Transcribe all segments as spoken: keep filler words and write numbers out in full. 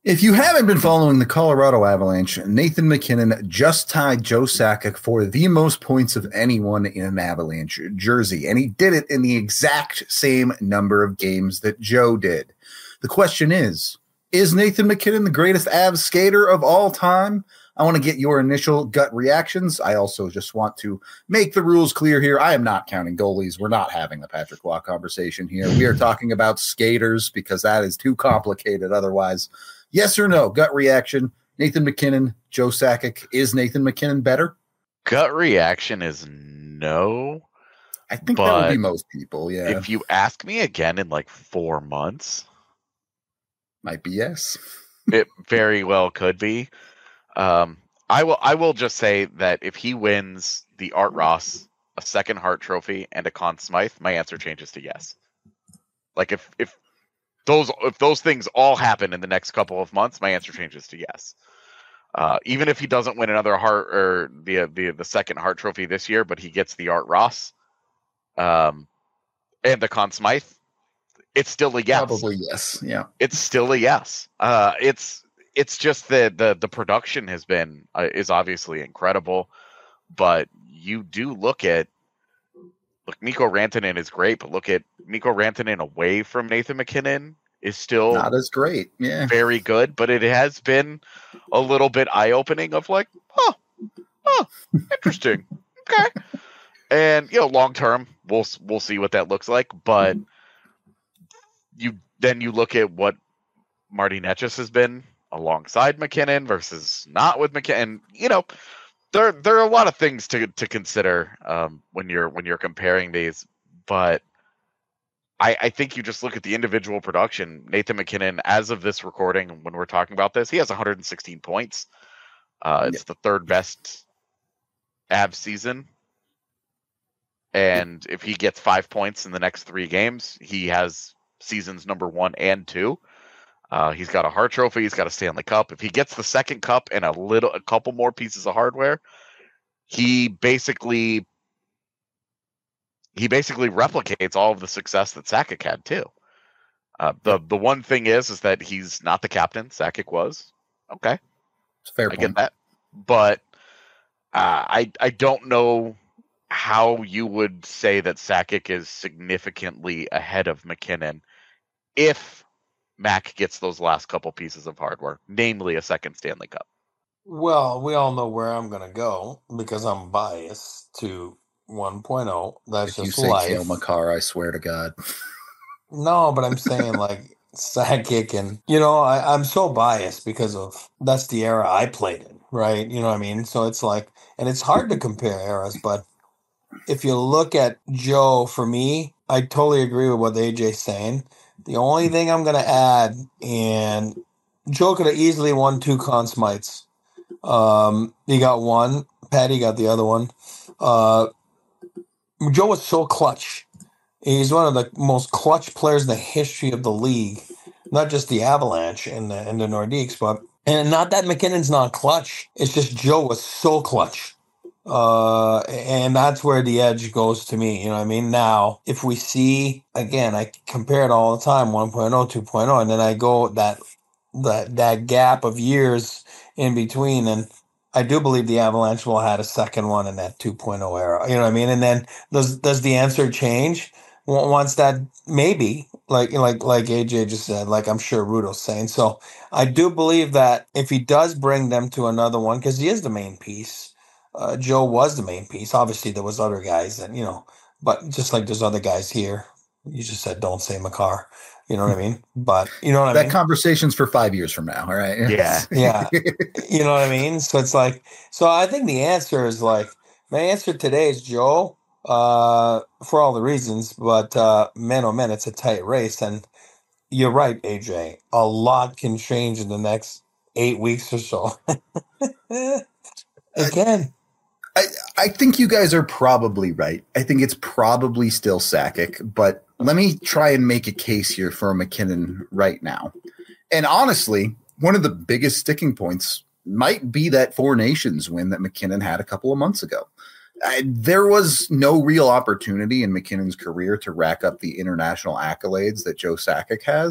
If you haven't been following the Colorado Avalanche, Nathan MacKinnon just tied Joe Sakic for the most points of anyone in an Avalanche jersey, and he did it in the exact same number of games that Joe did. The question is, is Nathan MacKinnon the greatest Avs skater of all time? I want to get your initial gut reactions. I also just want to make the rules clear here. I am not counting goalies. We're not having the Patrick Waugh conversation here. We are talking about skaters because that is too complicated otherwise. Yes or no? Gut reaction. Nathan MacKinnon, Joe Sakic. Is Nathan MacKinnon better? Gut reaction is no. I think that would be most people, yeah. If you ask me again in like four months. Might be yes. It very well could be. Um, I will I will just say that if he wins the Art Ross, a second Hart Trophy, and a Conn Smythe, my answer changes to yes. Like if if Those if those things all happen in the next couple of months, my answer changes to yes. Uh, even if he doesn't win another Hart or the the the second Hart Trophy this year, but he gets the Art Ross, um, and the Conn Smythe, it's still a yes. Probably yes. Yeah, it's still a yes. Uh, it's it's just that the the production has been uh, is obviously incredible, but you do look at. Look, Mikko Rantanen is great, but look at Mikko Rantanen away from Nathan MacKinnon is still not as great. Yeah, very good, but it has been a little bit eye-opening of like, oh, oh, interesting, okay. And you know, long term, we'll we'll see what that looks like. But you then you look at what Marty Necas has been alongside MacKinnon versus not with MacKinnon. You know. There, there are a lot of things to to consider um, when you're when you're comparing these, but I, I think you just look at the individual production. Nathan MacKinnon, as of this recording, when we're talking about this, he has one hundred sixteen points. Uh, it's yeah. the third best Avs season, and if he gets five points in the next three games, he has seasons number one and two. Uh, he's got a Hart Trophy. He's got a Stanley Cup. If he gets the second cup and a little, a couple more pieces of hardware, he basically he basically replicates all of the success that Sakic had too. Uh, the the one thing is, is that he's not the captain. Sakic was. Okay, it's a fair I point. get that, but uh, I I don't know how you would say that Sakic is significantly ahead of MacKinnon if Mac gets those last couple pieces of hardware, namely a second Stanley Cup. Well, we all know where I'm going to go because I'm biased to one point oh. That's if just you say life. Cale Makar, I swear to God. No, but I'm saying like Sakic and, you know, I, I'm so biased because of that's the era I played in, right? You know what I mean? So it's like, and it's hard to compare eras, but if you look at Joe, for me, I totally agree with what A J's saying. The only thing I'm going to add, and Joe could have easily won two Conn Smythes. Um, he got one. Patty got the other one. Uh, Joe was so clutch. He's one of the most clutch players in the history of the league, not just the Avalanche and the, and the Nordiques, but and not that MacKinnon's not clutch. It's just Joe was so clutch. Uh, and that's where the edge goes to me. You know what I mean? Now, if we see, again, I compare it all the time, one point oh, two point oh, and then I go that, that, that gap of years in between, and I do believe the Avalanche will have had a second one in that two point oh era. You know what I mean? And then does, does the answer change once that, maybe, like, like, like A J just said, like I'm sure Rudo's saying. So I do believe that if he does bring them to another one, because he is the main piece, Uh, Joe was the main piece. Obviously, there was other guys, and you know, but just like there's other guys here. You just said don't say Makar. You know what I mean? But you know what I that mean? That conversation's for five years from now, all right? Yeah. Yeah. You know what I mean? So it's like, so I think the answer is like, my answer today is Joe, uh, for all the reasons, but uh, man, oh man, it's a tight race. And you're right, A J. A lot can change in the next eight weeks or so. It can. I, I think you guys are probably right. I think it's probably still Sakic, but let me try and make a case here for MacKinnon right now. And honestly, one of the biggest sticking points might be that Four Nations win that MacKinnon had a couple of months ago. I, there was no real opportunity in MacKinnon's career to rack up the international accolades that Joe Sakic has.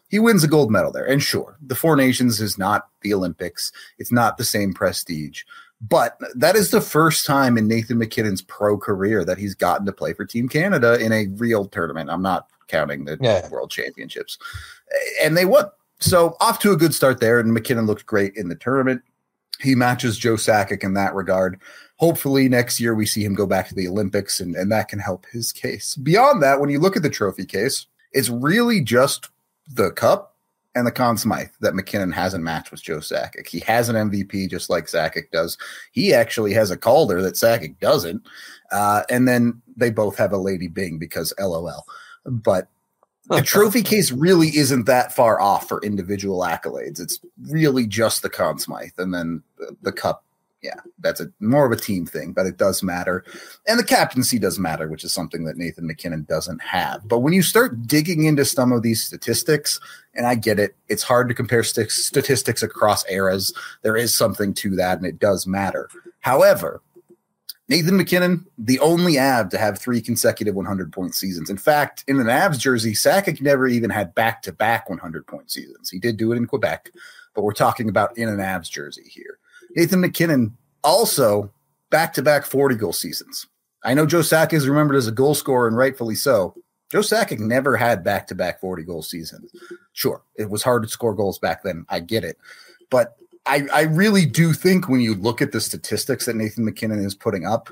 he wins a gold medal there. And sure, the Four Nations is not the Olympics. It's not the same prestige. But that is the first time in Nathan MacKinnon's pro career that he's gotten to play for Team Canada in a real tournament. I'm not counting the yeah. World Championships. And they won. So off to a good start there. And MacKinnon looked great in the tournament. He matches Joe Sakic in that regard. Hopefully next year we see him go back to the Olympics, and, and that can help his case. Beyond that, when you look at the trophy case, it's really just the Cup and the Conn Smythe that MacKinnon hasn't matched with Joe Sakic. He has an M V P just like Sakic does. He actually has a Calder that Sakic doesn't. Uh, and then they both have a Lady Byng because LOL. But the trophy case really isn't that far off for individual accolades. It's really just the Conn Smythe, and then the, the Cup. Yeah, that's a more of a team thing, but it does matter. And the captaincy does matter, which is something that Nathan MacKinnon doesn't have. But when you start digging into some of these statistics, and I get it, it's hard to compare st- statistics across eras. There is something to that, and it does matter. However, Nathan MacKinnon, the only Av to have three consecutive hundred-point seasons. In fact, in an Avs jersey, Sakic never even had back-to-back hundred-point seasons. He did do it in Quebec, but we're talking about in an Avs jersey here. Nathan MacKinnon also back-to-back forty-goal seasons. I know Joe Sakic is remembered as a goal scorer, and rightfully so. Joe Sakic never had back-to-back forty-goal seasons. Sure, it was hard to score goals back then. I get it. But I, I really do think when you look at the statistics that Nathan MacKinnon is putting up,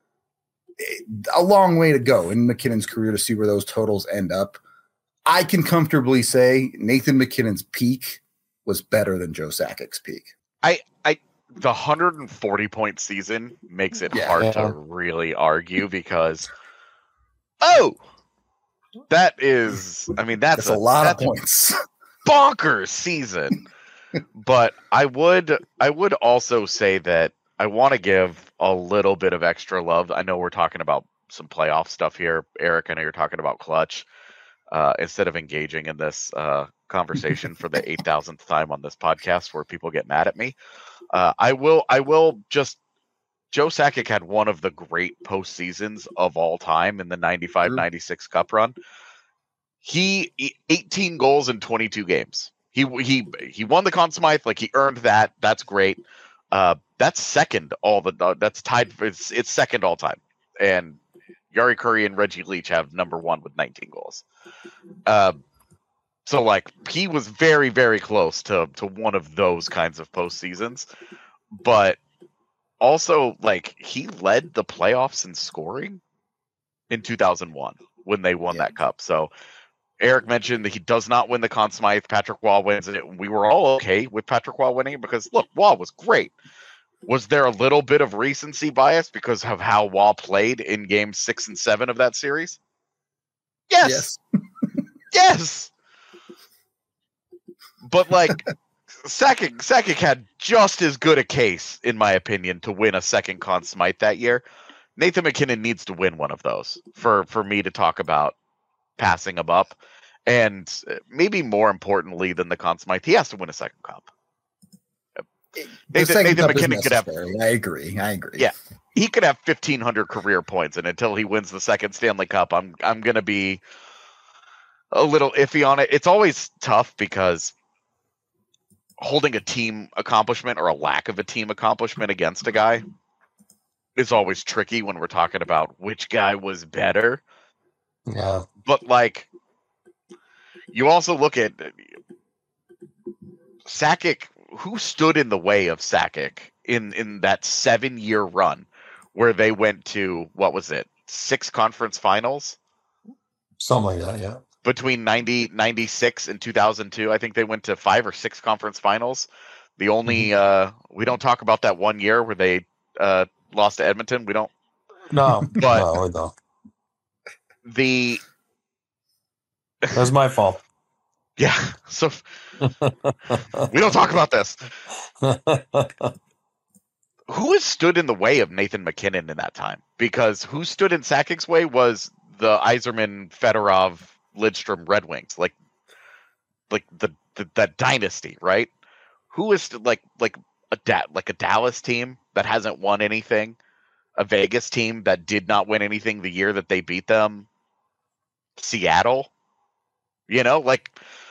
it, a long way to go in MacKinnon's career to see where those totals end up. I can comfortably say Nathan MacKinnon's peak was better than Joe Sakic's peak. I, I, the one hundred forty point season makes it Yeah. hard Yeah. to really argue because, oh, that is, I mean, that's, That's a, lot that's of points. bonkers season. But I would I would also say that I want to give a little bit of extra love. I know we're talking about some playoff stuff here, Eric. I know you're talking about clutch. Uh, instead of engaging in this uh, conversation for the eight thousandth time on this podcast, where people get mad at me, uh, I will I will just. Joe Sakic had one of the great postseasons of all time in the ninety-five ninety-six Cup run. He eighteen goals in twenty-two games. He he he won the Conn Smythe, like he earned that. That's great. Uh, that's second all the uh, that's tied. It's it's second all time, and Jari Kurri and Reggie Leach have number one with nineteen goals. Uh, so like he was very very close to to one of those kinds of postseasons, but also like he led the playoffs in scoring in two thousand one when they won Yeah. that cup. So. Eric mentioned that he does not win the Conn Smythe. Patrick Waugh wins it. We were all okay with Patrick Waugh winning because, look, Waugh was great. Was there a little bit of recency bias because of how Waugh played in games six and seven of that series? Yes. Yes. yes. But, like, Sakic, Sakic had just as good a case, in my opinion, to win a second Conn Smythe that year. Nathan MacKinnon needs to win one of those for, for me to talk about passing him up. And maybe more importantly than the Conn Smythe, he has to win a second cup. The Nathan, second Nathan cup is MacKinnon could have, necessary. I agree. I agree. Yeah. he could have fifteen hundred career points, and until he wins the second Stanley Cup, I'm I'm gonna be a little iffy on it. It's always tough because holding a team accomplishment or a lack of a team accomplishment against a guy is always tricky when we're talking about which guy was better. Yeah. But, like, you also look at Sakic, who stood in the way of Sakic in, in that seven-year run where they went to, what was it, six conference finals? Something like that, yeah. Between ninety, ninety-six and two thousand two, I think they went to five or six conference finals. The only, mm-hmm. uh, we don't talk about that one year where they uh, lost to Edmonton. We don't. No, but no, we don't. The That's my fault. Yeah, so we don't talk about this. Who has stood in the way of Nathan MacKinnon in that time? Because who stood in Sakic's way was the Yzerman, Fedorov, Lidstrom Red Wings, like, like the, the that dynasty, right? Who is like like a da- like a Dallas team that hasn't won anything, a Vegas team that did not win anything the year that they beat them, Seattle, you know, like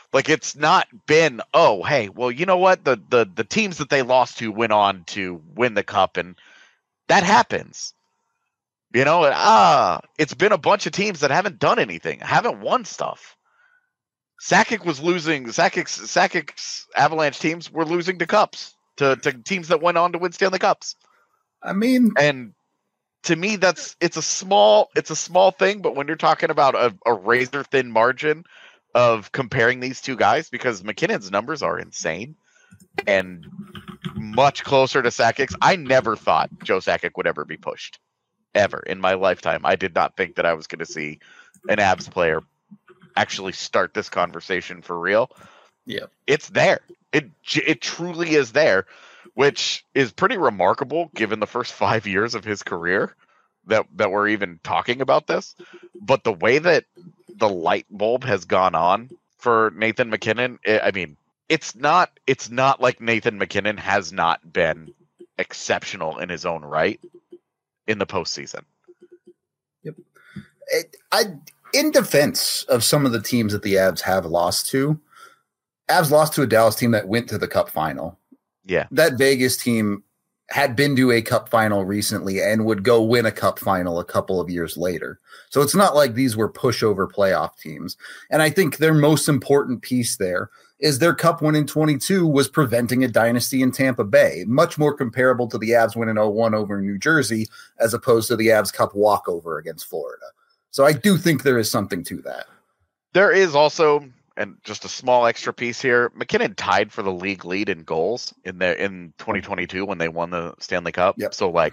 Like, it's not been, oh, hey, well, you know what? The, the the teams that they lost to went on to win the cup, and that happens. You know, ah, it's been a bunch of teams that haven't done anything, haven't won stuff. Sakic was losing, Sakic's, Sakic's Avalanche teams were losing to cups, to, to teams that went on to win Stanley Cups. I mean, and to me, that's it's a small it's a small thing, but when you're talking about a, a razor thin margin of comparing these two guys, because MacKinnon's numbers are insane and much closer to Sakic's. I never thought Joe Sakic would ever be pushed, ever in my lifetime. I did not think that I was going to see an Avs player actually start this conversation for real. Yeah, it's there. It it truly is there, which is pretty remarkable given the first five years of his career that that we're even talking about this. But the way that the light bulb has gone on for Nathan MacKinnon, it, I mean, it's not it's not like Nathan MacKinnon has not been exceptional in his own right in the postseason. Yep. It, I in defense of some of the teams that the Avs have lost to, Avs lost to a Dallas team that went to the Cup final. Yeah. That Vegas team had been to a Cup final recently and would go win a Cup final a couple of years later. So it's not like these were pushover playoff teams. And I think their most important piece there is their Cup win in twenty-two was preventing a dynasty in Tampa Bay, much more comparable to the Avs win in oh one over New Jersey as opposed to the Avs Cup walkover against Florida. So I do think there is something to that. There is also, and just a small extra piece here, MacKinnon tied for the league lead in goals in the in twenty twenty-two when they won the Stanley Cup. Yep. So like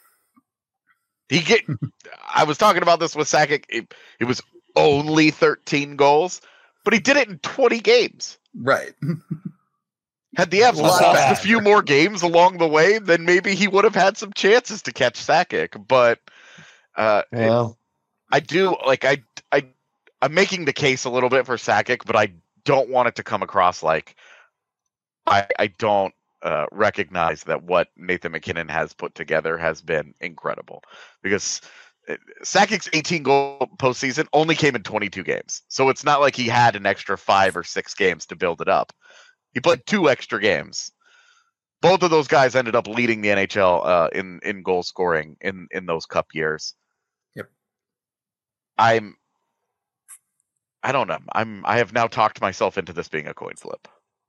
he get I was talking about this with Sakic. It, it was only thirteen goals, but he did it in twenty games. Right. Had the Avs lost a few more games along the way, then maybe he would have had some chances to catch Sakic. But uh, yeah. it, I do like I I I'm making the case a little bit for Sakic, but I don't want it to come across like I I don't uh, recognize that what Nathan MacKinnon has put together has been incredible, because Sakic's eighteen goal postseason only came in twenty-two games, so it's not like he had an extra five or six games to build it up. He played two extra games. Both of those guys ended up leading the N H L uh, in in goal scoring in in those Cup years. Yep. I'm. I don't know. I'm. I have now talked myself into this being a coin flip.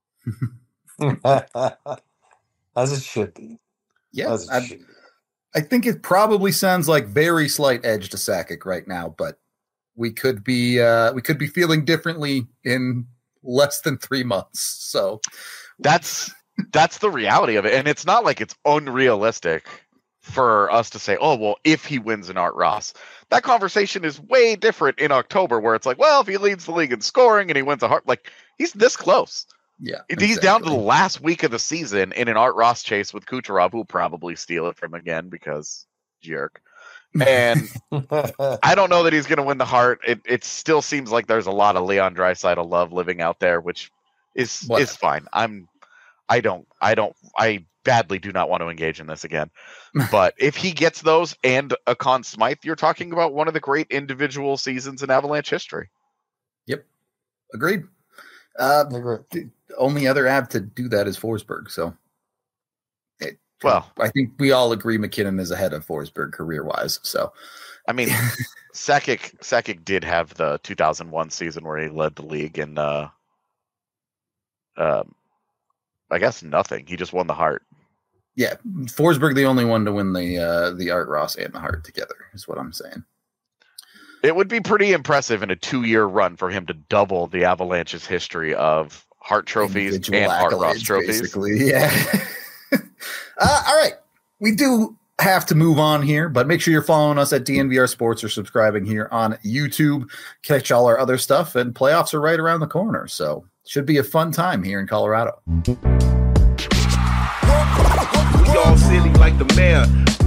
As it should be. Yeah, I, should be. I think it probably sounds like very slight edge to Sakic right now, but we could be uh, we could be feeling differently in less than three months. So that's that's the reality of it, and it's not like it's unrealistic for us to say, oh, well, if he wins an Art Ross. That conversation is way different in October, where it's like, well, if he leads the league in scoring and he wins a Hart, like, he's this close. Yeah, he's exactly. down to the last week of the season in an Art Ross chase with Kucherov, who'll probably steal it from him again because jerk. And I don't know that he's going to win the Hart. It it still seems like there's a lot of Leon Draisaitl love living out there, which is what? is fine. I'm I don't I don't I badly do not want to engage in this again. But if he gets those and a Conn Smythe, you're talking about one of the great individual seasons in Avalanche history. Yep. Agreed. Uh, Agreed. The only other Av to do that is Forsberg. So, it, well, I think we all agree MacKinnon is ahead of Forsberg career-wise. So, I mean, Sakic Sakic did have the two thousand one season where he led the league in, uh, um, I guess nothing. He just won the Hart. Yeah, Forsberg the only one to win the uh, the Art Ross and the Hart together is what I'm saying. It would be pretty impressive in a two-year run for him to double the Avalanche's history of Hart trophies Individual and Art Ross accolades, trophies. Basically, yeah. uh, all right, we do have to move on here, but make sure you're following us at D N V R Sports or subscribing here on YouTube. Catch all our other stuff, and playoffs are right around the corner, so should be a fun time here in Colorado. We all silly like the mayor.